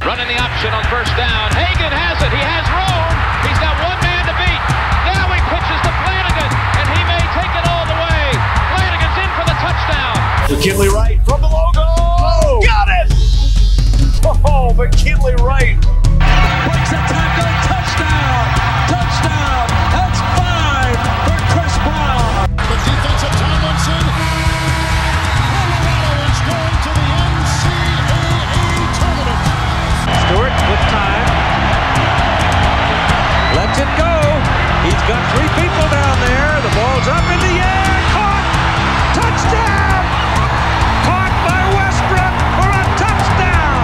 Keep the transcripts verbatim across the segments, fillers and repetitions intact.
Running the option on first down. Hagan has it. He has room. He's got one man to beat. Now he pitches to Flanagan, and he may take it all the way. Flanagan's in for the touchdown. McKinley Wright from the logo. Oh, got it! Oh, McKinley Wright. Breaks a tackle. Touchdown. Touchdown. That's five for Chris Brown. The defense of Tomlinson. Colorado is going to the N C double A tournament. Stewart with time. Lets it go. He's got three people down there. The ball's up in the air. Caught. Touchdown. Caught by Westbrook for a touchdown.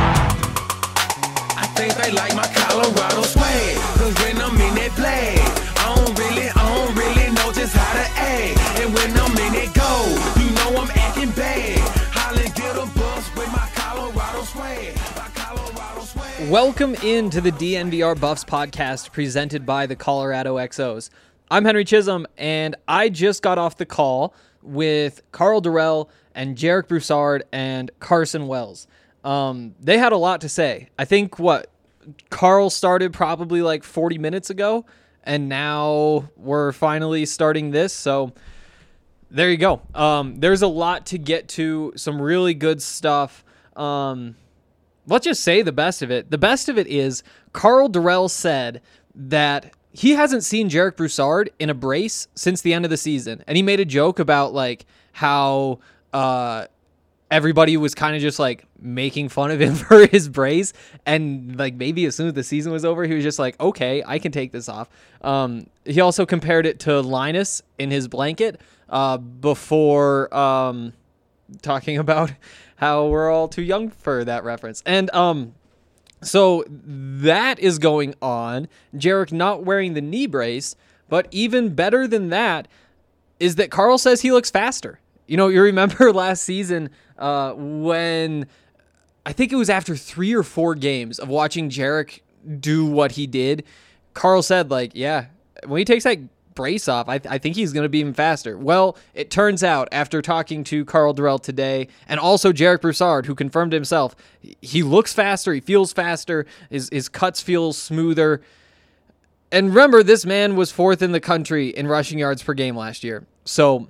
I think they like my Colorado swag. Cause when I'm in that play, I don't really, I don't really know just how to act. And when I'm in it go, you know I'm acting bad. Holland get a bus with my Colorado swag. My Colorado swag. Welcome into the D N V R Buffs podcast presented by the Colorado X Os. I'm Henry Chisholm, and I just got off the call with Karl Dorrell and Jarek Broussard and Carson Wells. Um, they had a lot to say. I think, what, Karl started probably like forty minutes ago, and now we're finally starting this, so there you go. Um, there's a lot to get to, some really good stuff. Um, let's just say the best of it. The best of it is Karl Dorrell said that he hasn't seen Jarek Broussard in a brace since the end of the season. And he made a joke about like how uh, everybody was kind of just like making fun of him for his brace. And like maybe as soon as the season was over, he was just like, okay, I can take this off. Um, he also compared it to Linus in his blanket uh, before um, talking about how we're all too young for that reference. And um, so that is going on. Jarek not wearing the knee brace, but even better than that is that Karl says he looks faster. You know, you remember last season uh, when I think it was after three or four games of watching Jarek do what he did, Karl said like, yeah, when he takes that brace off, I, th- I think he's going to be even faster. Well, it turns out after talking to Karl Dorrell today and also Jarek Broussard, who confirmed himself, he looks faster, he feels faster, his, his cuts feel smoother. And remember, this man was fourth in the country in rushing yards per game last year. So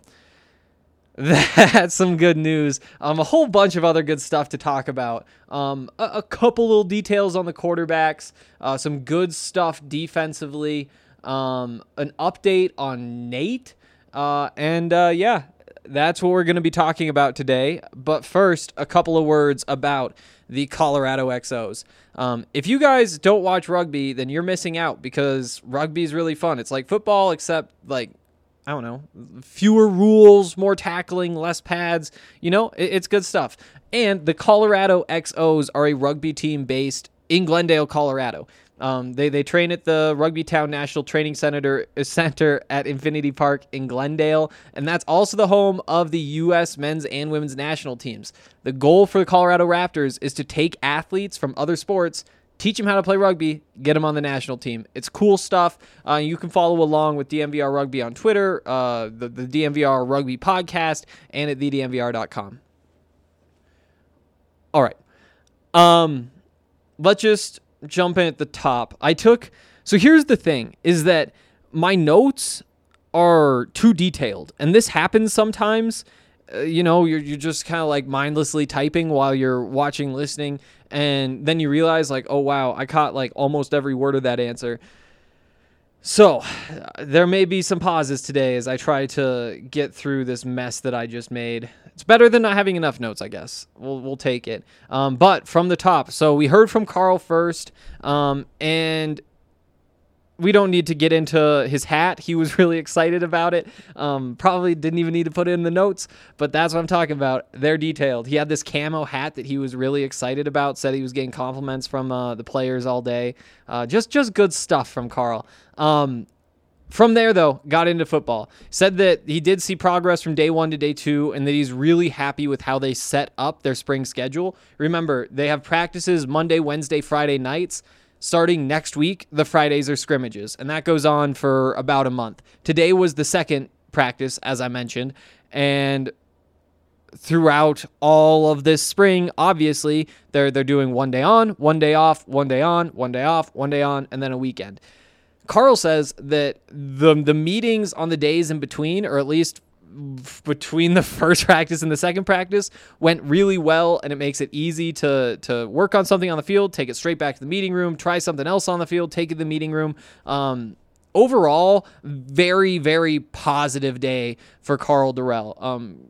that's some good news. Um, a whole bunch of other good stuff to talk about. Um, a, a couple little details on the quarterbacks, uh, some good stuff defensively. Um, an update on Nate, uh, and uh, yeah, that's what we're going to be talking about today. But first, a couple of words about the Colorado X Os. Um, if you guys don't watch rugby, then you're missing out because rugby is really fun. It's like football, except like, I don't know, fewer rules, more tackling, less pads. You know, it, it's good stuff. And the Colorado X Os are a rugby team based in Glendale, Colorado. Um, they, they train at the Rugby Town National Training Center, Center at Infinity Park in Glendale, and that's also the home of the U S men's and women's national teams. The goal for the Colorado Raptors is to take athletes from other sports, teach them how to play rugby, get them on the national team. It's cool stuff. Uh, you can follow along with D M V R Rugby on Twitter, uh, the, the D M V R Rugby podcast, and at the d m v r dot com. All right. Um, let's just jump in at the top. I took, so here's the thing, is that my notes are too detailed, and this happens sometimes. Uh, you know, you're, you're just kind of like mindlessly typing while you're watching, listening, and then you realize like, oh wow, I caught like almost every word of that answer. So uh, there may be some pauses today as I try to get through this mess that I just made. It's better than not having enough notes, I guess. We'll we'll take it. Um, but from the top, so we heard from Karl first, um, and we don't need to get into his hat. He was really excited about it. Um, probably didn't even need to put it in the notes, but that's what I'm talking about. They're detailed. He had this camo hat that he was really excited about, said he was getting compliments from uh, the players all day. Uh, just, just good stuff from Karl. Um, From there, though, got into football. Said that he did see progress from day one to day two and that he's really happy with how they set up their spring schedule. Remember, they have practices Monday, Wednesday, Friday nights. Starting next week, the Fridays are scrimmages, and that goes on for about a month. Today was the second practice, as I mentioned, and throughout all of this spring, obviously, they're they're doing one day on, one day off, one day on, one day off, one day on, and then a weekend. Carl says that the the meetings on the days in between, or at least between the first practice and the second practice, went really well, and it makes it easy to to work on something on the field, take it straight back to the meeting room, try something else on the field, take it to the meeting room. Um, overall, very, very positive day for Karl Dorrell. Um,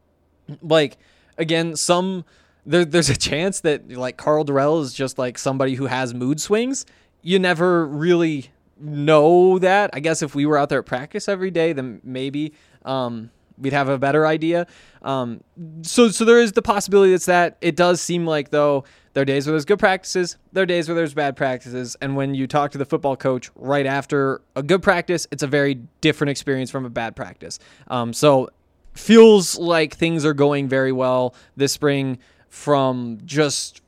like, again, some there, there's a chance that like Karl Dorrell is just like somebody who has mood swings. You never really know that. I guess if we were out there at practice every day, then maybe um, we'd have a better idea. Um, so, so there is the possibility that's that. It does seem like, though, there are days where there's good practices, there are days where there's bad practices, and when you talk to the football coach right after a good practice, it's a very different experience from a bad practice. Um, so, feels like things are going very well this spring from just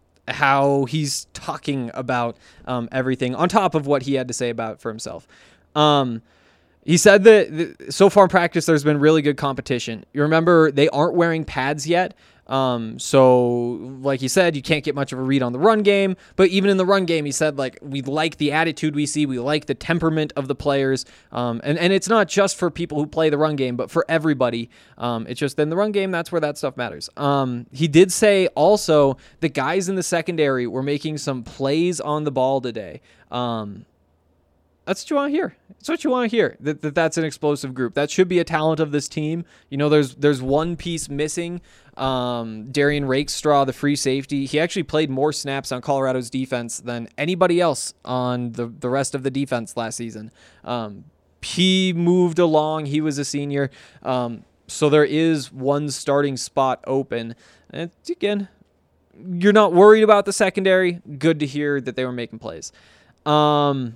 how he's talking about um, everything on top of what he had to say about it for himself. Um, he said that th- so far in practice, there's been really good competition. You remember they aren't wearing pads yet. Um, so like he said, you can't get much of a read on the run game, but even in the run game, he said, like, we like the attitude we see. We like the temperament of the players. Um, and, and it's not just for people who play the run game, but for everybody. Um, it's just in the run game, that's where that stuff matters. Um, he did say also the guys in the secondary were making some plays on the ball today. Um, That's what you want to hear. That's what you want to hear. That, that that's an explosive group. That should be a talent of this team. You know, there's there's one piece missing. Um, Darian Rakestraw, the free safety, he actually played more snaps on Colorado's defense than anybody else on the, the rest of the defense last season. Um, he moved along. He was a senior. Um, so there is one starting spot open. And again, you're not worried about the secondary. Good to hear that they were making plays. Um...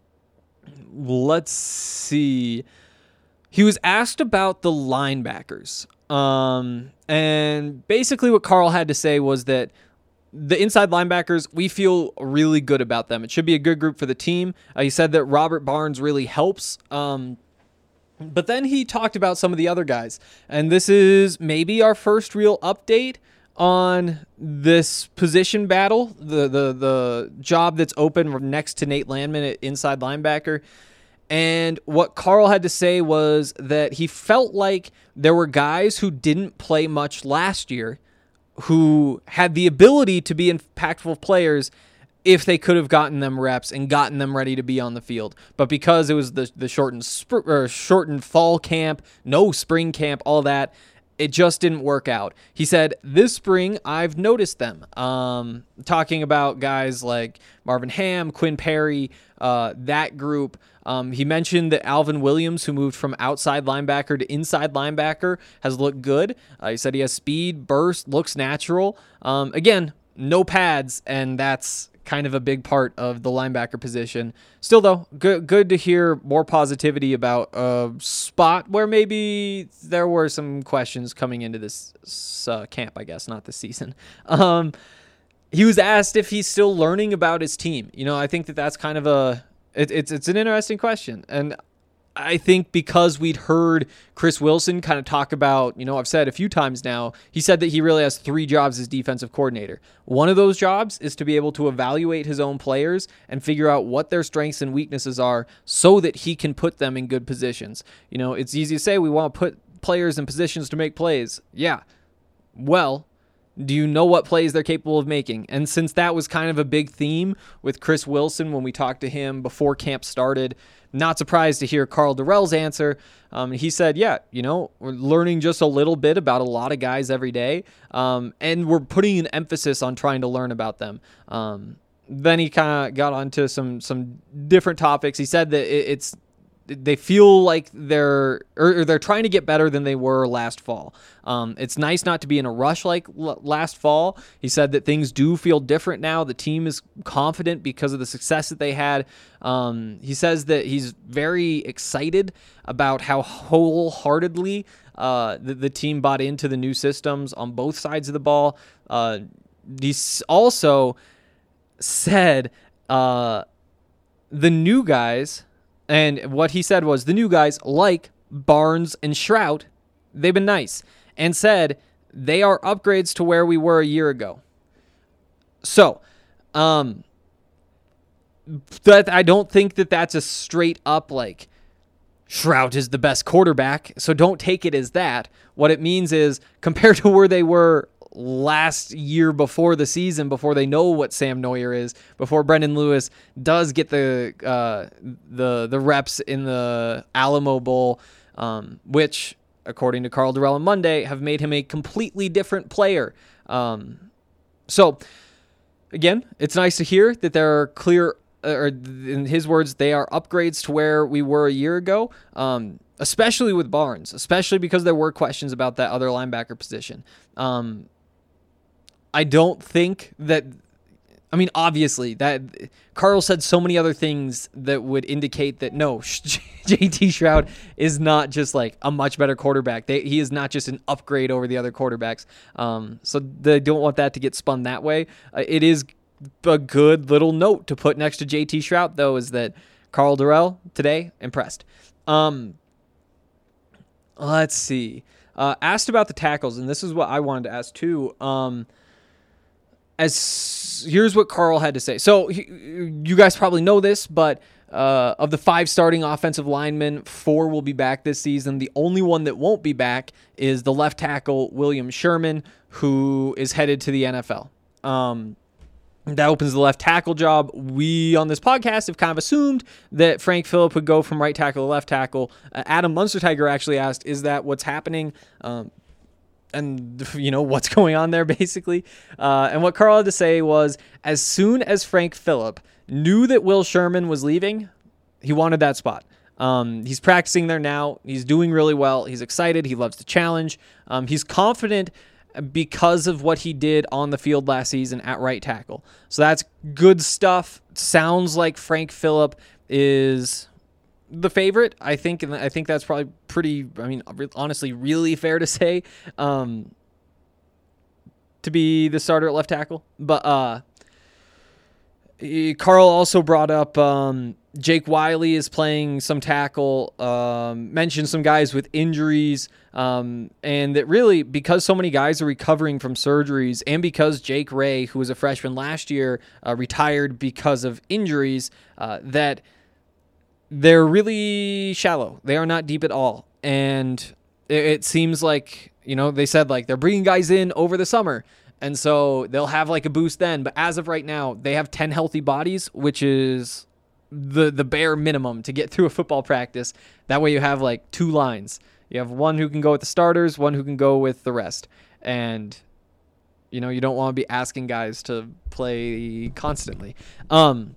Let's see. He was asked about the linebackers. Um, and basically what Karl had to say was that the inside linebackers, we feel really good about them. It should be a good group for the team. Uh, he said that Robert Barnes really helps. Um, but then he talked about some of the other guys. And this is maybe our first real update on this position battle, the the the job that's open next to Nate Landman at inside linebacker. And what Karl had to say was that he felt like there were guys who didn't play much last year who had the ability to be impactful players if they could have gotten them reps and gotten them ready to be on the field. But because it was the the shortened sp- or shortened fall camp, no spring camp, all that, it just didn't work out. He said, this spring, I've noticed them. Um, talking about guys like Marvin Ham, Quinn Perry, uh, that group. Um, he mentioned that Alvin Williams, who moved from outside linebacker to inside linebacker, has looked good. Uh, he said he has speed, burst, looks natural. Um, again, no pads, and that's kind of a big part of the linebacker position. Still, though, good good to hear more positivity about a spot where maybe there were some questions coming into this uh, camp, I guess, not this season. Um, he was asked if he's still learning about his team. You know, I think that that's kind of a it, it's it's an interesting question, and I think because we'd heard Chris Wilson kind of talk about, you know, I've said a few times now, he said that he really has three jobs as defensive coordinator. One of those jobs is to be able to evaluate his own players and figure out what their strengths and weaknesses are so that he can put them in good positions. You know, it's easy to say we want to put players in positions to make plays. Yeah. Well, do you know what plays they're capable of making? And since that was kind of a big theme with Chris Wilson when we talked to him before camp started, not surprised to hear Karl Dorrell's answer. Um, he said, yeah, you know, we're learning just a little bit about a lot of guys every day, um, and we're putting an emphasis on trying to learn about them. Um, then he kind of got onto some some different topics. He said that it, it's they feel like they're or they're trying to get better than they were last fall. Um, it's nice not to be in a rush like l- last fall. He said that things do feel different now. The team is confident because of the success that they had. Um, he says that he's very excited about how wholeheartedly uh, the, the team bought into the new systems on both sides of the ball. Uh, he also said uh, the new guys. And what he said was the new guys, like Barnes and Shrout, they've been nice. and said they are upgrades to where we were a year ago. So, um, that I don't think that that's a straight up like Shrout is the best quarterback. So don't take it as that. What it means is compared to where they were last year before the season, before they know what Sam Neuer is, before Brendan Lewis does get the uh, the the reps in the Alamo Bowl, um, which, according to Karl Dorrell on Monday, have made him a completely different player. Um, so, again, it's nice to hear that there are clear, or in his words, they are upgrades to where we were a year ago, um, especially with Barnes, especially because there were questions about that other linebacker position. Um, I don't think that, I mean, obviously, that Karl said so many other things that would indicate that, no, J T Shrout is not just like a much better quarterback. They, he is not just an upgrade over the other quarterbacks. Um, so they don't want that to get spun that way. Uh, it is a good little note to put next to J T Shrout, though, is that Karl Dorrell today, impressed. Um, let's see. Uh, asked about the tackles, and this is what I wanted to ask too. Um, As here's what Karl had to say. So he, you guys probably know this, but uh, of the five starting offensive linemen, four will be back this season. The only one that won't be back is the left tackle, William Sherman, who is headed to the N F L. Um, that opens the left tackle job. We on this podcast have kind of assumed that Frank Phillip would go from right tackle to left tackle. Uh, Adam Munstertiger actually asked, "Is that what's happening?" Um, And, you know, what's going on there, basically. Uh, and what Karl had to say was, as soon as Frank Phillip knew that Will Sherman was leaving, he wanted that spot. Um, he's practicing there now. He's doing really well. He's excited. He loves the challenge. Um, he's confident because of what he did on the field last season at right tackle. So that's good stuff. Sounds like Frank Phillip is the favorite, I think, and I think that's probably pretty, I mean, honestly, really fair to say, um, to be the starter at left tackle. But uh, Karl also brought up um, Jake Wiley is playing some tackle, um, mentioned some guys with injuries, um, and that really, because so many guys are recovering from surgeries, and because Jake Ray, who was a freshman last year, uh, retired because of injuries, uh, that they're really shallow. They are not deep at all. And it, it seems like, you know, they said like they're bringing guys in over the summer. And so they'll have like a boost then. But as of right now, they have ten healthy bodies, which is the the bare minimum to get through a football practice. That way you have like two lines. You have one who can go with the starters, one who can go with the rest. And, you know, you don't want to be asking guys to play constantly. Um,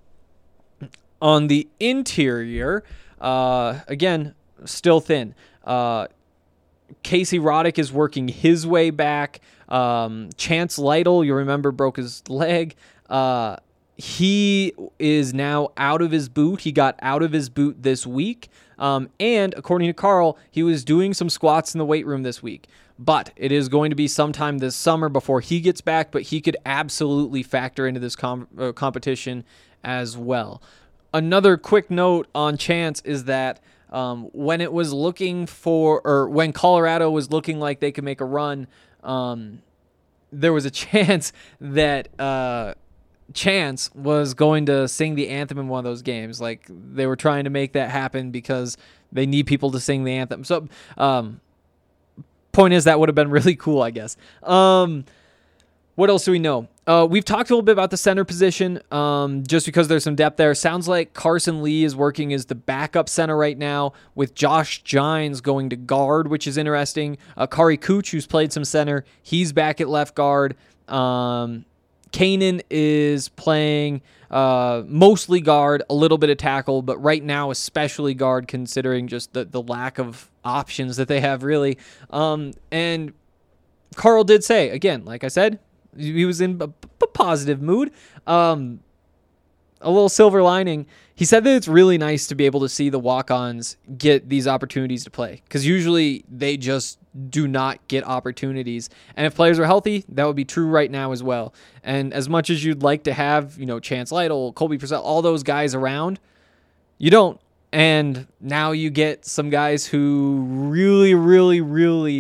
On the interior, uh, again, still thin. Uh, Casey Roddick is working his way back. Um, Chance Lytle, you remember, broke his leg. Uh, he is now out of his boot. He got out of his boot this week. Um, and according to Karl, he was doing some squats in the weight room this week. But it is going to be sometime this summer before he gets back, but he could absolutely factor into this com- uh, competition as well. Another quick note on Chance is that um, when it was looking for, or when Colorado was looking like they could make a run, um, there was a chance that uh, Chance was going to sing the anthem in one of those games. Like they were trying to make that happen because they need people to sing the anthem. So, um, point is that would have been really cool, I guess. Um, what else do we know? Uh, we've talked a little bit about the center position, um, just because there's some depth there. Sounds like Carson Lee is working as the backup center right now, with Josh Gines going to guard, which is interesting. Uh, Kari Cooch, who's played some center, he's back at left guard. Um, Kanan is playing uh, mostly guard, a little bit of tackle, but right now especially guard, considering just the, the lack of options that they have, really. Um, and Karl did say, again, like I said, he was in a, a positive mood. Um, a little silver lining. He said that it's really nice to be able to see the walk-ons get these opportunities to play, because usually they just do not get opportunities. And if players are healthy, that would be true right now as well. And as much as you'd like to have, you know, Chance Lytle, Colby Purcell, all those guys around, you don't. And now you get some guys who really, really, really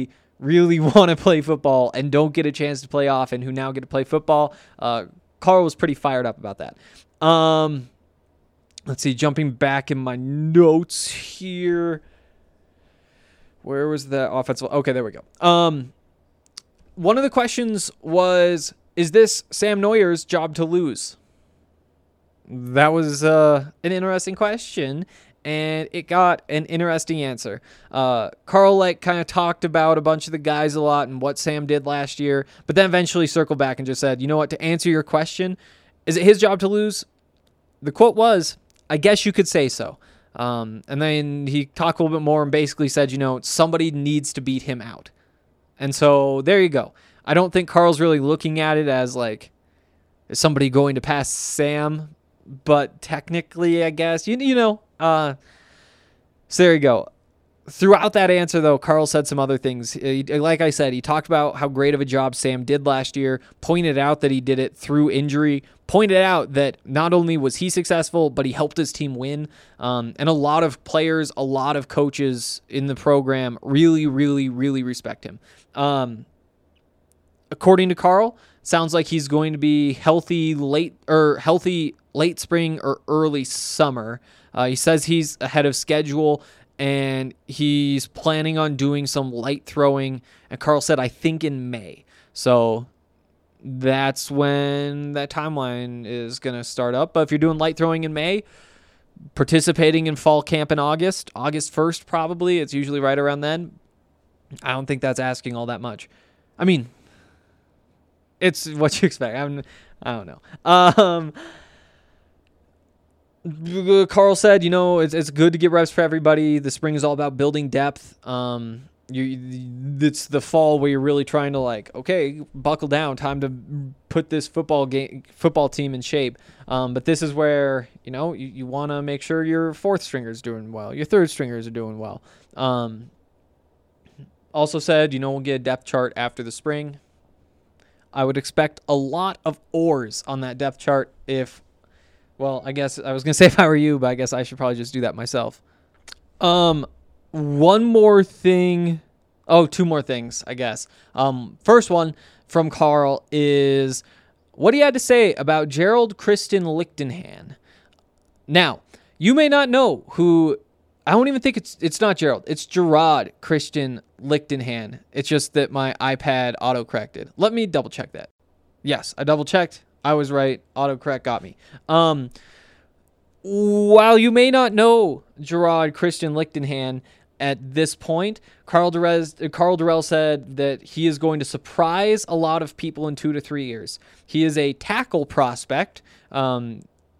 really want to play football and don't get a chance to play often, who now get to play football. Uh, Carl was pretty fired up about that. Um, let's see, jumping back in my notes here. Where was the offensive? Okay, there we go. Um, one of the questions was, is this Sam Neuer's job to lose? That was uh, an interesting question, and it got an interesting answer. Uh, Carl like kind of talked about a bunch of the guys a lot and what Sam did last year, but then eventually circled back and just said, you know what, to answer your question, is it his job to lose? The quote was, I guess you could say so. Um, and then he talked a little bit more and basically said, you know, somebody needs to beat him out. And so there you go. I don't think Carl's really looking at it as like, is somebody going to pass Sam? But technically, I guess, you, you know, uh, so there you go. Throughout that answer, though, Carl said some other things. He, like I said, he talked about how great of a job Sam did last year, pointed out that he did it through injury, pointed out that not only was he successful, but he helped his team win. Um, and a lot of players, a lot of coaches in the program really, really, really respect him. Um, according to Carl, sounds like he's going to be healthy late or healthy late spring or early summer. Uh, he says he's ahead of schedule, and he's planning on doing some light throwing. And Carl said, I think in May. So that's when that timeline is going to start up. But if you're doing light throwing in May, participating in fall camp in August, August first probably, it's usually right around then. I don't think that's asking all that much. I mean, it's what you expect. I'm, I don't know. Um, Carl said, you know, it's it's good to get reps for everybody. The spring is all about building depth. Um, you, it's the fall where you're really trying to like, okay, buckle down, time to put this football game, football team in shape. Um, but this is where, you know, you, you want to make sure your fourth stringers doing well, your third stringers are doing well. Um, also said, you know, we'll get a depth chart after the spring. I would expect a lot of oars on that depth chart if. Well, I guess I was going to say if I were you, but I guess I should probably just do that myself. Um, one more thing. Oh, two more things, I guess. Um, first one from Carl is what he had to say about Gerald Christian Lichtenhan. Now, you may not know who, I don't even think it's, it's not Gerald. It's Gerard Christian Lichtenhan. It's just that my iPad auto-corrected. Let me double check that. Yes, I double checked. I was right. Autocorrect got me. Um, while you may not know Gerard Christian Lichtenhan at this point, Carl Durrell, Carl Durrell said that he is going to surprise a lot of people in two to three years. He is a tackle prospect. Um,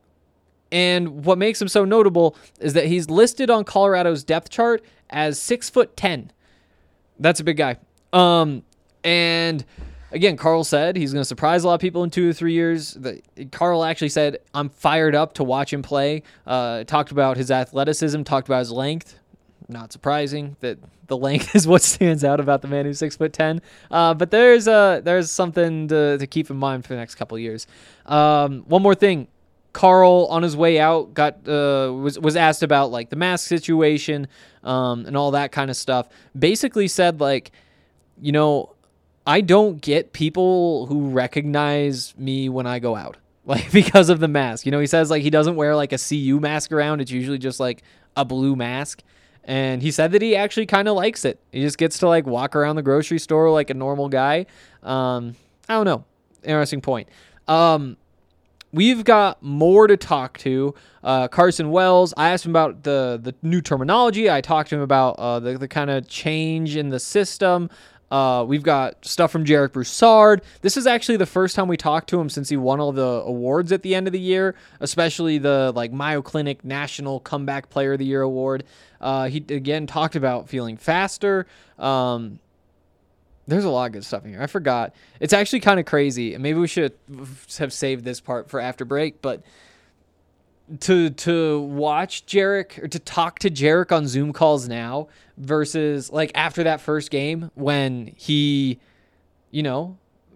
and what makes him so notable is that he's listed on Colorado's depth chart as six foot ten. That's a big guy. Um, and Again, Carl said he's going to surprise a lot of people in two or three years. The, Carl actually said, I'm fired up to watch him play. Uh, talked about his athleticism, talked about his length. Not surprising that the length is what stands out about the man who's six foot ten. Uh, but there's uh, there's something to, to keep in mind for the next couple of years. Um, one more thing. Carl, on his way out, got uh, was was asked about like the mask situation um, and all that kind of stuff. Basically said like, you know, I don't get people who recognize me when I go out, like because of the mask. You know, he says like he doesn't wear like a C U mask around. It's usually just like a blue mask. And he said that he actually kind of likes it. He just gets to like walk around the grocery store like a normal guy. Um, I don't know. Interesting point. Um, we've got more to talk to. Uh, Carson Wells, I asked him about the, the new terminology. I talked to him about uh, the, the kind of change in the system. Uh, we've got stuff from Jarek Broussard. This is actually the first time we talked to him since he won all the awards at the end of the year, especially the like Mayo Clinic National Comeback Player of the Year award. Uh, he again talked about feeling faster. Um, there's a lot of good stuff in here. I forgot. It's actually kind of crazy, and maybe we should have saved this part for after break. But to to watch Jarek or to talk to Jarek on Zoom calls now versus like after that first game when he, you know,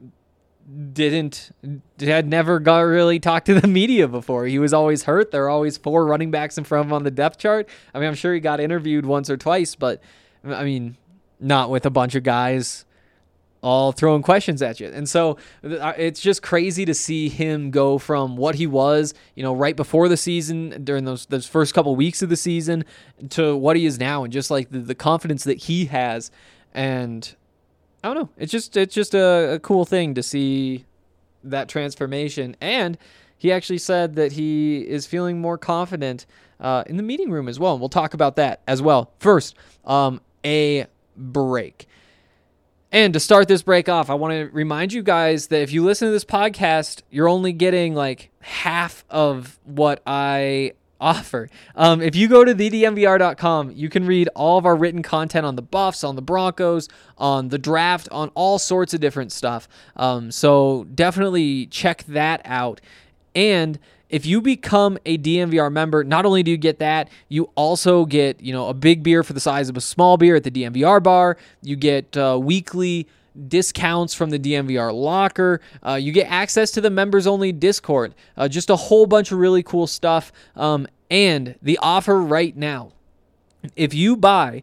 didn't had never got really talked to the media before. He was always hurt. There are always four running backs in front of him on the depth chart. I mean, I'm sure he got interviewed once or twice, but I mean, not with a bunch of guys all throwing questions at you. And so it's just crazy to see him go from what he was, you know, right before the season, during those those first couple weeks of the season, to what he is now, and just like the, the confidence that he has. And I don't know, it's just it's just a, a cool thing to see that transformation. And he actually said that he is feeling more confident uh, in the meeting room as well. And we'll talk about that as well. First, um, a break. And to start this break off, I want to remind you guys that if you listen to this podcast, you're only getting like half of what I offer. Um, if you go to the d n v r dot com, you can read all of our written content on the Buffs, on the Broncos, on the draft, on all sorts of different stuff. Um, so definitely check that out. And if you become a D N V R member, not only do you get that, you also get, you know, a big beer for the size of a small beer at the D N V R bar. You get uh, weekly discounts from the D N V R locker. Uh, you get access to the members-only Discord. Uh, just a whole bunch of really cool stuff. Um, and the offer right now, if you buy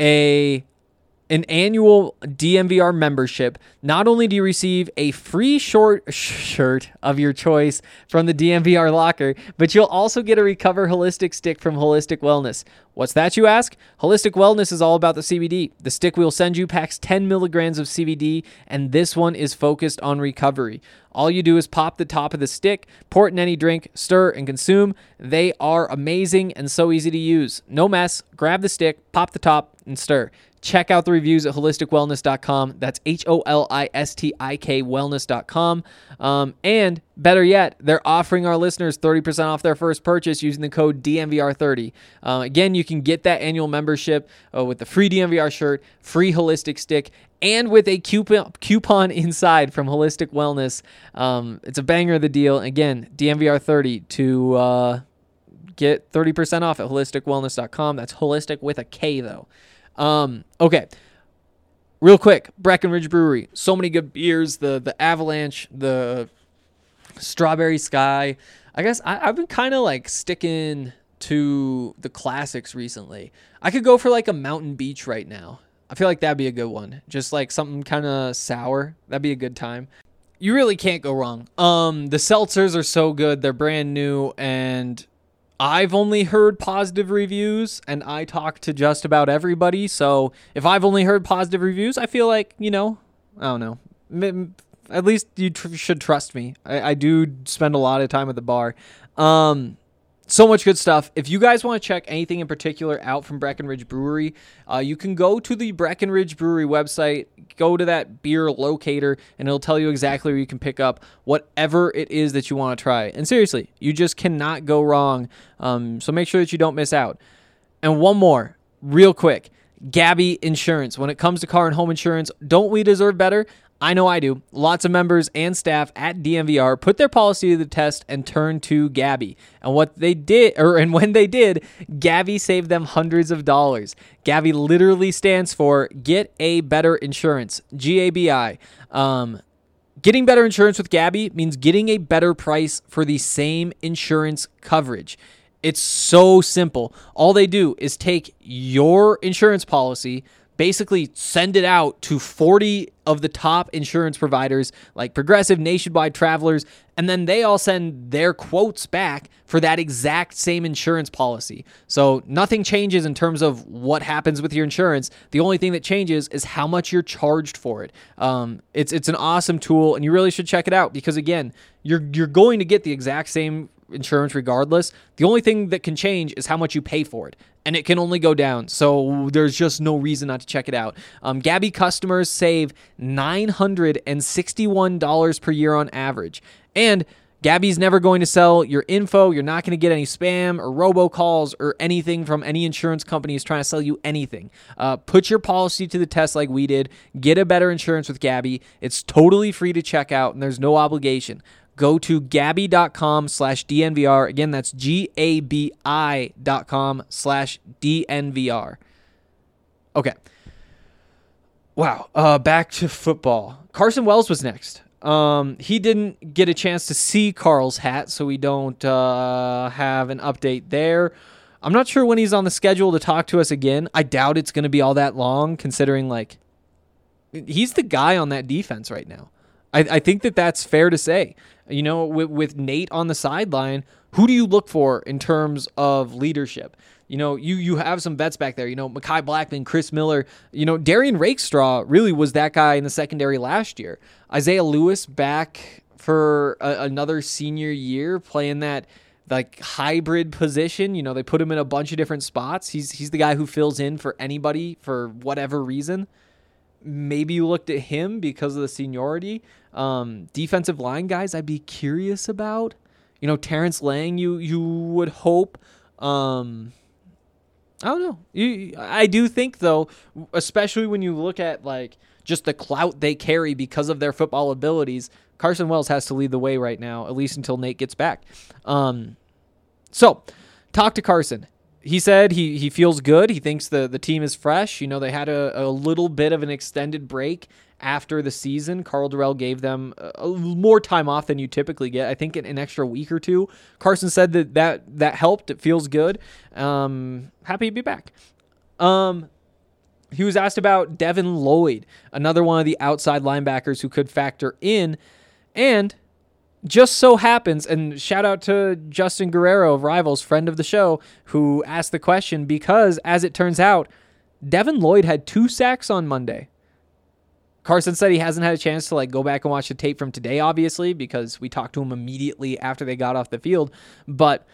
a an annual D N V R membership, not only do you receive a free short shirt of your choice from the D N V R locker, but you'll also get a Recover Holistic stick from Holistic Wellness. What's that, you ask? Holistic Wellness is all about the C B D. The stick we'll send you packs ten milligrams of C B D, and this one is focused on recovery. All you do is pop the top of the stick, pour it in any drink, stir, and consume. They are amazing and so easy to use. No mess. Grab the stick, pop the top, and stir. Check out the reviews at holistic wellness dot com. That's H O L I S T I K wellness dot com. Um, and better yet, they're offering our listeners thirty percent off their first purchase using the code D N V R thirty. Uh, again, you can get that annual membership uh, with the free D N V R shirt, free Holistic stick, and with a coupon, coupon inside from Holistic Wellness. Um, it's a banger of the deal. Again, D N V R thirty to uh, get thirty percent off at holistic wellness dot com. That's holistic with a K, though. Um, okay, real quick, Breckenridge Brewery, so many good beers, the, the Avalanche, the Strawberry Sky. I guess I, I've been kind of like sticking to the classics recently. I could go for like a Mountain Beach right now. I feel like that'd be a good one. Just like something kind of sour. That'd be a good time. You really can't go wrong. Um, the seltzers are so good. They're brand new, and I've only heard positive reviews, and I talk to just about everybody. So if I've only heard positive reviews, I feel like, you know, I don't know. At least you tr- should trust me. I, I do spend a lot of time at the bar. Um, so much good stuff. If you guys want to check anything in particular out from Breckenridge Brewery, uh, you can go to the Breckenridge Brewery website, go to that beer locator, and it'll tell you exactly where you can pick up whatever it is that you want to try. And seriously, you just cannot go wrong. Um, so make sure that you don't miss out. And one more, real quick, Gabby Insurance. When it comes to car and home insurance, don't we deserve better? I know I do. Lots of members and staff at D N V R put their policy to the test and turned to Gabby. And what they did, or and when they did, Gabby saved them hundreds of dollars. Gabby literally stands for Get a Better Insurance, G A B I. Um, getting better insurance with Gabby means getting a better price for the same insurance coverage. It's so simple. All they do is take your insurance policy, basically send it out to forty of the top insurance providers like Progressive, Nationwide, Travelers, and then they all send their quotes back for that exact same insurance policy. So nothing changes in terms of what happens with your insurance. The only thing that changes is how much you're charged for it. Um, it's it's an awesome tool, and you really should check it out because, again, you're you're going to get the exact same insurance regardless. The only thing that can change is how much you pay for it, and it can only go down. So there's just no reason not to check it out. Um, Gabby customers save nine hundred sixty-one dollars per year on average. And Gabby's never going to sell your info. You're not going to get any spam or robocalls or anything from any insurance companies trying to sell you anything. Uh, put your policy to the test like we did. Get a better insurance with Gabby. It's totally free to check out, and there's no obligation. Go to Gabby.com slash DNVR. Again, that's G-A-B-I dot com slash D-N-V-R. Okay. Wow. Uh, back to football. Carson Wells was next. Um, he didn't get a chance to see Carl's hat, so we don't uh, have an update there. I'm not sure when he's on the schedule to talk to us again. I doubt it's going to be all that long, considering like he's the guy on that defense right now. I, I think that that's fair to say. You know, with, with Nate on the sideline, who do you look for in terms of leadership? You know, you you have some vets back there. You know, Mekhi Blackman, Chris Miller. You know, Darian Rakestraw really was that guy in the secondary last year. Isaiah Lewis back for a, another senior year playing that like hybrid position. You know, they put him in a bunch of different spots. He's he's the guy who fills in for anybody for whatever reason. Maybe you looked at him because of the seniority. Um, defensive line guys, I'd be curious about. You know, Terrence Lang, you you would hope. Um, I don't know. You, I do think, though, especially when you look at like just the clout they carry because of their football abilities, Carson Wells has to lead the way right now, at least until Nate gets back. Um, so, talk to Carson. He said he, he feels good. He thinks the, the team is fresh. You know, they had a, a little bit of an extended break after the season. Karl Dorrell gave them a, a more time off than you typically get. I think an, an extra week or two. Carson said that that, that helped. It feels good. Um, happy to be back. Um, he was asked about Devin Lloyd, another one of the outside linebackers who could factor in. And just so happens, and shout out to Justin Guerrero of Rivals, friend of the show, who asked the question because, as it turns out, Devin Lloyd had two sacks on Monday. Carson said he hasn't had a chance to like go back and watch the tape from today, obviously, because we talked to him immediately after they got off the field. But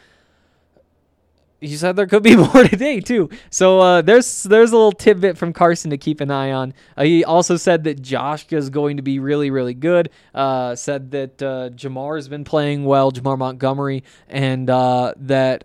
he said there could be more today too. So uh, there's there's a little tidbit from Carson to keep an eye on. Uh, he also said that Josh is going to be really, really good. Uh, said that uh, Jamar has been playing well, Jamar Montgomery, and uh, that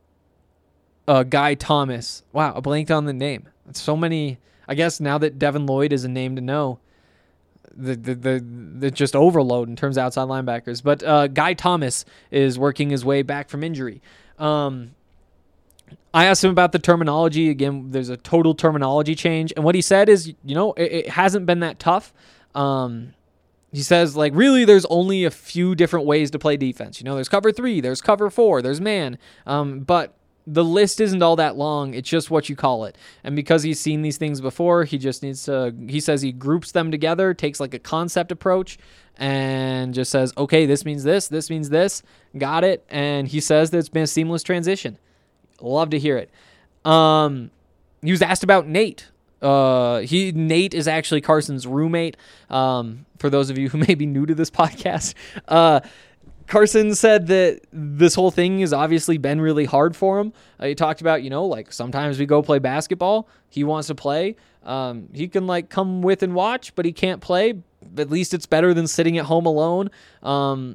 uh, Guy Thomas. Wow, I blanked on the name. It's so many. I guess now that Devin Lloyd is a name to know, the the the, the just overload in terms of outside linebackers. But uh, Guy Thomas is working his way back from injury. Um, I asked him about the terminology. Again, there's a total terminology change. And what he said is, you know, it, it hasn't been that tough. Um, he says, like, really, there's only a few different ways to play defense. You know, there's cover three, there's cover four, there's man. Um, but the list isn't all that long. It's just what you call it. And because he's seen these things before, he just needs to, he says he groups them together, takes like a concept approach, and just says, okay, this means this, this means this. Got it. And he says that it's been a seamless transition. Love to hear it. Um, he was asked about Nate. Uh, he Nate is actually Carson's roommate. Um, for those of you who may be new to this podcast, uh, Carson said that this whole thing has obviously been really hard for him. Uh, he talked about, you know, like sometimes we go play basketball. He wants to play. Um, he can like come with and watch, but he can't play. At least it's better than sitting at home alone. Um,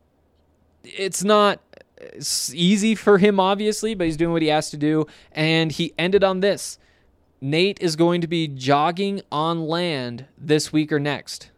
it's not It's easy for him, obviously, but he's doing what he has to do. And he ended on this. Nate is going to be jogging on land this week or next.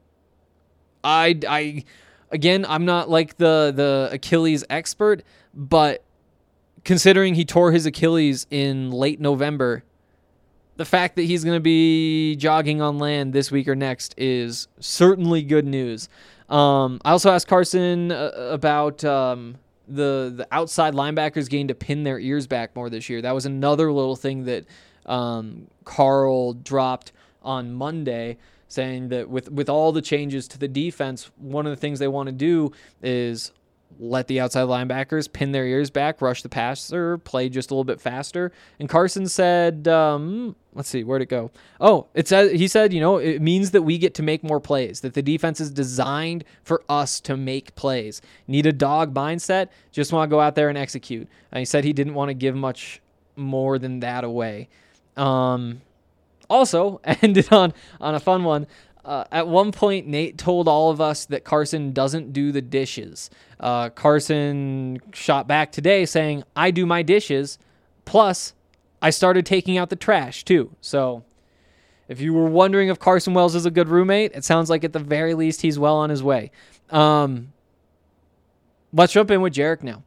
I, I, again, I'm not like the, the Achilles expert, but considering he tore his Achilles in late November, the fact that he's going to be jogging on land this week or next is certainly good news. Um, I also asked Carson uh, about... Um, the the outside linebackers getting to pin their ears back more this year. That was another little thing that um, Karl dropped on Monday, saying that with, with all the changes to the defense, one of the things they want to do is let the outside linebackers pin their ears back, rush the passer, play just a little bit faster. And Carson said, um, let's see, where'd it go? Oh, it said, he said, you know, it means that we get to make more plays, that the defense is designed for us to make plays. Need a dog mindset, just want to go out there and execute. And he said he didn't want to give much more than that away. Um, also, ended on, on a fun one. Uh, at one point, Nate told all of us that Carson doesn't do the dishes. Uh, Carson shot back today saying, I do my dishes, plus I started taking out the trash too. So if you were wondering if Carson Wells is a good roommate, it sounds like at the very least he's well on his way. Um, let's jump in with Jarek now.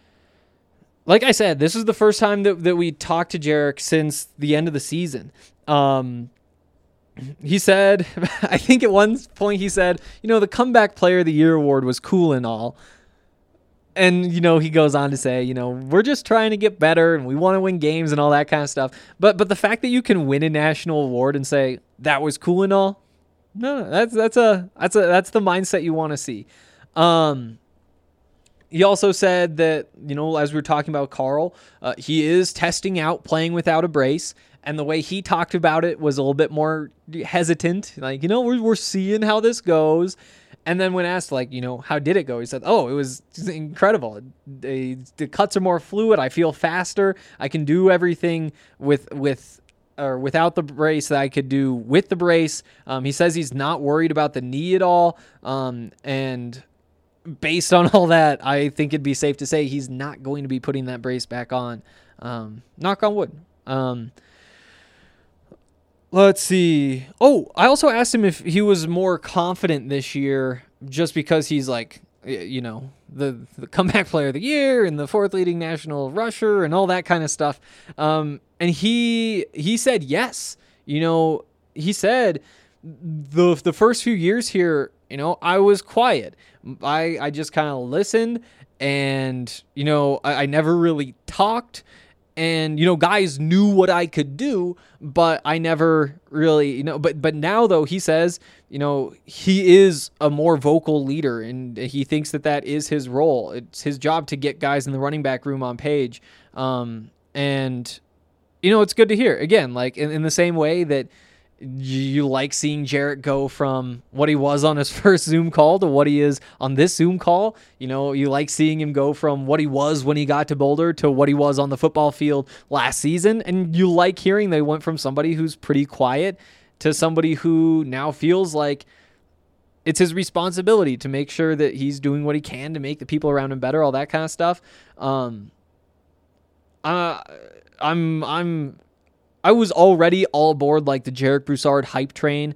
Like I said, this is the first time that, that we talked to Jarek since the end of the season. Um, He said, I think at one point he said, you know, the Comeback Player of the Year award was cool and all, And, you know, he goes on to say, you know, we're just trying to get better and we want to win games and all that kind of stuff. But but the fact that you can win a national award and say that was cool and all, no, no that's that's a that's a that's the mindset you want to see. Um, he also said that, you know, as we were talking about Carl, uh, he is testing out playing without a brace. And the way he talked about it was a little bit more hesitant. Like, you know, we're we're seeing how this goes. And then when asked, like, you know, how did it go? He said, oh, it was incredible. The, the cuts are more fluid. I feel faster. I can do everything with with or without the brace that I could do with the brace. Um, he says he's not worried about the knee at all. Um, and based on all that, I think it'd be safe to say he's not going to be putting that brace back on. Um, knock on wood. Um, Let's see. Oh, I also asked him if he was more confident this year just because he's like, you know, the, the comeback player of the year and the fourth leading national rusher and all that kind of stuff. Um, and he he said yes. You know, he said the the first few years here, you know, I was quiet. I, I just kind of listened and, you know, I, I never really talked. And, you know, guys knew what I could do, but I never really, you know, but but now, though, he says, you know, he is a more vocal leader and he thinks that that is his role. It's his job to get guys in the running back room on page. Um, and, you know, it's good to hear. Again, like in, in the same way that you like seeing Jarrett go from what he was on his first Zoom call to what he is on this Zoom call. You know, you like seeing him go from what he was when he got to Boulder to what he was on the football field last season. And you like hearing they went from somebody who's pretty quiet to somebody who now feels like it's his responsibility to make sure that he's doing what he can to make the people around him better, all that kind of stuff. Um, uh, I'm, I'm, I was already all aboard like the Jarek Broussard hype train.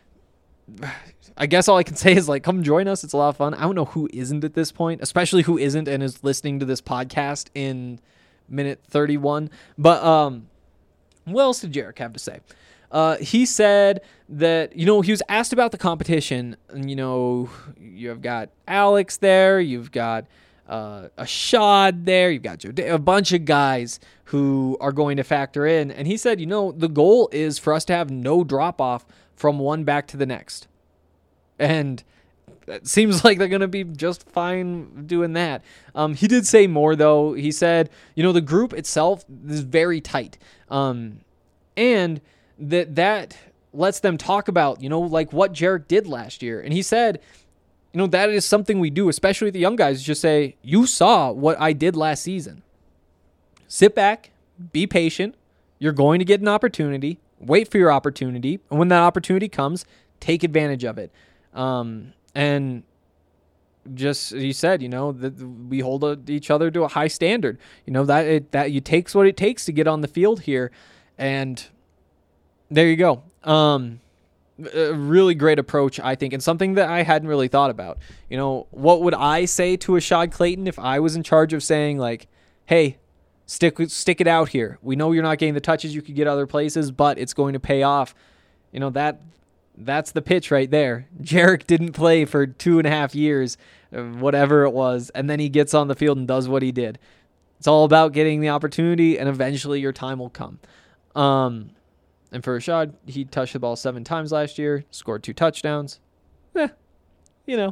I guess all I can say is like, come join us. It's a lot of fun. I don't know who isn't at this point, especially who isn't and is listening to this podcast in minute thirty-one. But um, what else did Jarek have to say? Uh, he said that, you know, he was asked about the competition. And, you know, you've got Alex there. You've got uh, a Shad there. You've got Joe Day, a bunch of guys who are going to factor in. And he said, you know, the goal is for us to have no drop-off from one back to the next. And it seems like they're going to be just fine doing that. Um, he did say more, though. He said, you know, the group itself is very tight. Um, and that that lets them talk about, you know, like what Jarek did last year. And he said, you know, that is something we do, especially with the young guys, just say, you saw what I did last season. Sit back, be patient. You're going to get an opportunity. Wait for your opportunity. And when that opportunity comes, take advantage of it. Um, and just, he said, you know, that we hold each other to a high standard. You know, that it, that it takes what it takes to get on the field here. And there you go. Um, a really great approach, I think, and something that I hadn't really thought about. You know, what would I say to a Ashad Clayton if I was in charge of saying, like, hey, Stick stick it out here. We know you're not getting the touches you could get other places, but it's going to pay off. You know, that that's the pitch right there. Jarek didn't play for two and a half years, whatever it was, and then he gets on the field and does what he did. It's all about getting the opportunity, and eventually your time will come. Um, and for Ashad, he touched the ball seven times last year, scored two touchdowns. Eh, you know,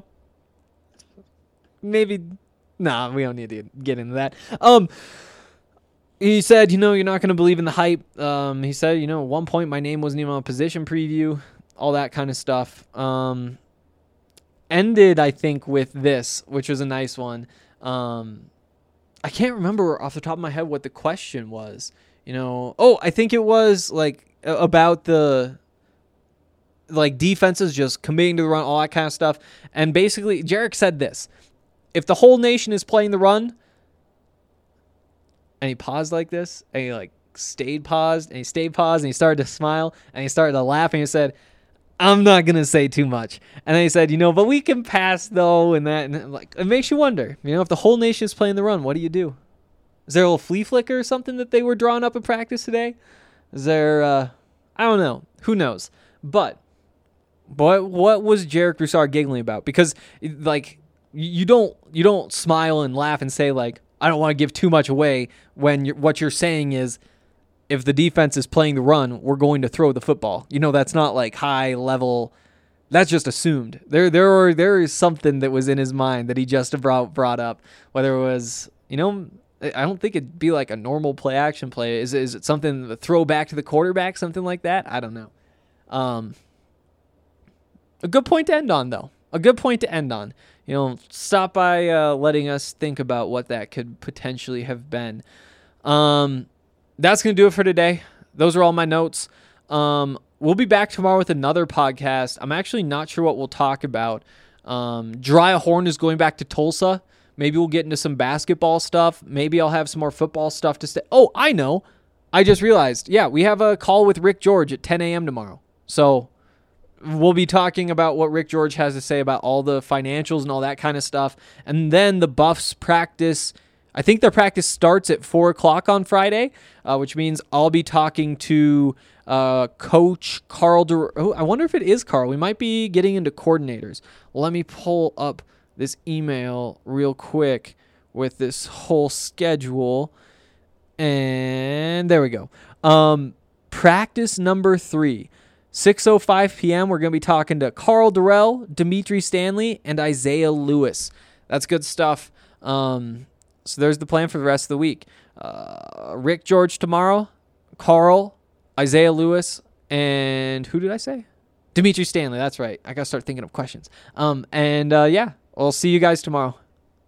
maybe, nah, we don't need to get into that. Um, He said, you know, you're not going to believe in the hype. Um, he said, you know, at one point my name wasn't even on a position preview, all that kind of stuff. Um, ended, I think, with this, which was a nice one. Um, I can't remember off the top of my head what the question was. You know, oh, I think it was like about the like defenses just committing to the run, all that kind of stuff. And basically, Jarek said this: if the whole nation is playing the run. And he paused like this, and he like stayed paused, and he stayed paused, and he started to smile, and he started to laugh, and he said, I'm not going to say too much. And then he said, you know, but we can pass, though, and that, and like, it makes you wonder, you know, if the whole nation is playing the run, what do you do? Is there a little flea flicker or something that they were drawing up in practice today? Is there, uh, I don't know. Who knows? But, but what was Jarek Broussard giggling about? Because, like, you don't you don't smile and laugh and say like, I don't want to give too much away when you're, what you're saying is, if the defense is playing the run, we're going to throw the football. You know, that's not like high level. That's just assumed. There there are, there is something that was in his mind that he just brought brought up. Whether it was, you know, I don't think it'd be like a normal play action play. Is is it something to throw back to the quarterback, something like that? I don't know. Um, a good point to end on, though. A good point to end on. You know, stop by uh, letting us think about what that could potentially have been. Um, that's going to do it for today. Those are all my notes. Um, we'll be back tomorrow with another podcast. I'm actually not sure what we'll talk about. Um, Jariah Horn is going back to Tulsa. Maybe we'll get into some basketball stuff. Maybe I'll have some more football stuff to say. Oh, I know. I just realized. Yeah, we have a call with Rick George at ten a.m. tomorrow. So we'll be talking about what Rick George has to say about all the financials and all that kind of stuff. And then the Buffs practice. I think their practice starts at four o'clock on Friday, uh, which means I'll be talking to uh, Coach Carl. Dur- oh, I wonder if it is Carl. We might be getting into coordinators. Let me pull up this email real quick with this whole schedule. And there we go. Um, practice number three. six oh five p.m. We're going to be talking to Carl Durrell, Dimitri Stanley, and Isaiah Lewis. That's good stuff. Um, so there's the plan for the rest of the week. Uh, Rick George tomorrow, Carl, Isaiah Lewis, and who did I say? Dimitri Stanley. That's right. I got to start thinking of questions. Um, and uh, yeah, I'll see you guys tomorrow.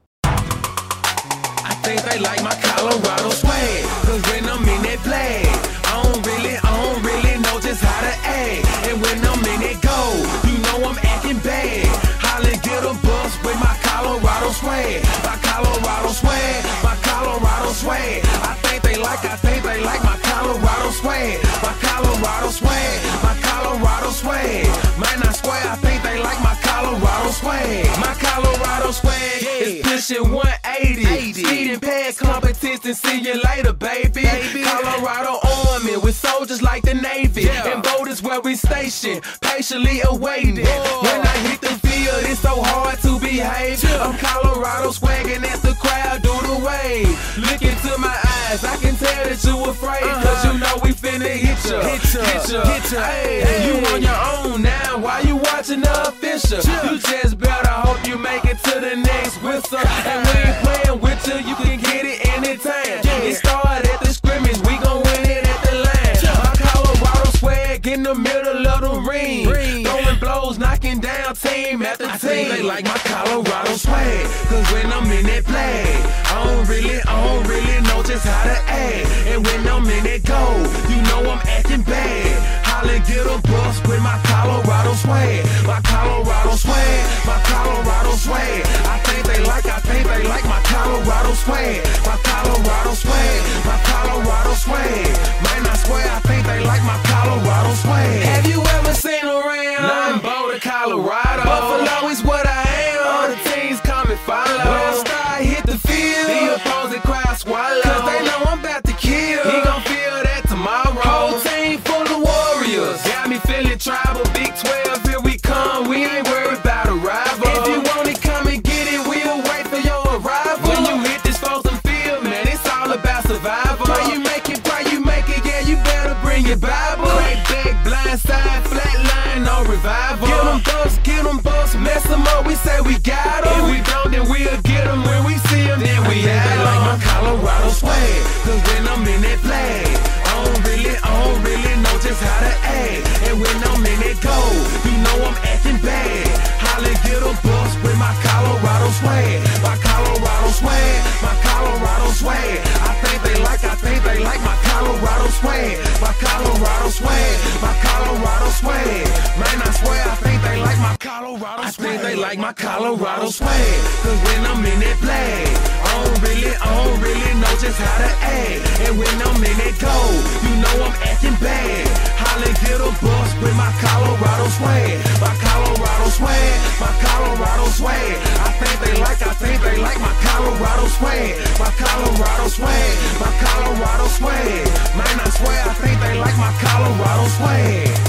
I think they like my Colorado swag, cause when I'm in that flag, I don't really, I don't really know just how to act. And when I'm in that go, you know I'm acting bad. Holly get a bus with my Colorado swag, my Colorado swag, my Colorado swag. I think they like, I think they like my Colorado swag, my Colorado swag, my Colorado swag. Man, I swear, I think they like my Colorado swag, my Colorado swag is pushing one eighty. Speeding past competition, see you later, baby. baby. Colorado Army with soldiers like the Navy, yeah. And voters where we stationed, patiently awaiting. Whoa. When I hit the field, it's so hard to behave. Yeah. I'm Colorado swagging as the crowd do the wave. Look into my eyes, I can tell that you afraid, uh-huh. Cause you know we finna hit ya, hit ya, hit ya, hit ya. Hey, hey. You on your own now, why you watching the official? Yeah. You just better hope you make it to the next whistle. And we ain't playing with you, you can get it anytime. Yeah. It started at the scrimmage, we gon' win it at the line. Yeah. My Colorado swag in the middle of the ring, ring. Throwing blows, knocking down team after I team. Think they like my Colorado swag, cause when I'm in that flag, I don't really, I don't really know just how to act. And when I'm in that go, you know I'm acting bad. Holly get a bus with my Colorado swag, my Colorado swag, my Colorado swag. I think they like, I think they like my Colorado swag, my Colorado swag, my Colorado swag. Man, I swear, I think they like my Colorado swag. Have you ever seen around? Nine Boulder, Colorado. Buffalo is what I am. All the teams come and follow. When I start hit the field, the opposing crowd swallow, cause they know I'm about to kill. He gon' feel that tomorrow. Whole team full of warriors, got me feeling tribal. Big twelve, here we come. We ain't worried about a rival. If you want it, come and get it. We'll wait for your arrival. When you hit this Folsom field, man, it's all about survival. Pray you make it, pray you make it. Yeah, you better bring your Bible. Crack back, blind side, flat line, no revival. Get them buffs, get them buffs, mess them up. We say we got them. If we don't, then we'll get them. When we see them, then we have them. Like my Colorado swag, cause when I'm in that flag, I don't really, I don't really know just how to act. And when I'm in that go, you know I'm acting bad. Holly get a bus with my Colorado swag, my Colorado swag, my Colorado swag. I think they like, I think they like my Colorado swag, my Colorado swag, my Colorado swag. Man, I swear, I think they like my Colorado swag. I think they like my Colorado swag, cause when I'm in that flag, I don't really, I don't really know just how to act. And when I'm in that go, you know I'm acting bad. Holly get a bus with my Colorado swag, my Colorado swag, my Colorado swag. I think they like, I think they like my Colorado swag, my Colorado swag, my Colorado swag. Man, I swear, I think they like my Colorado swag.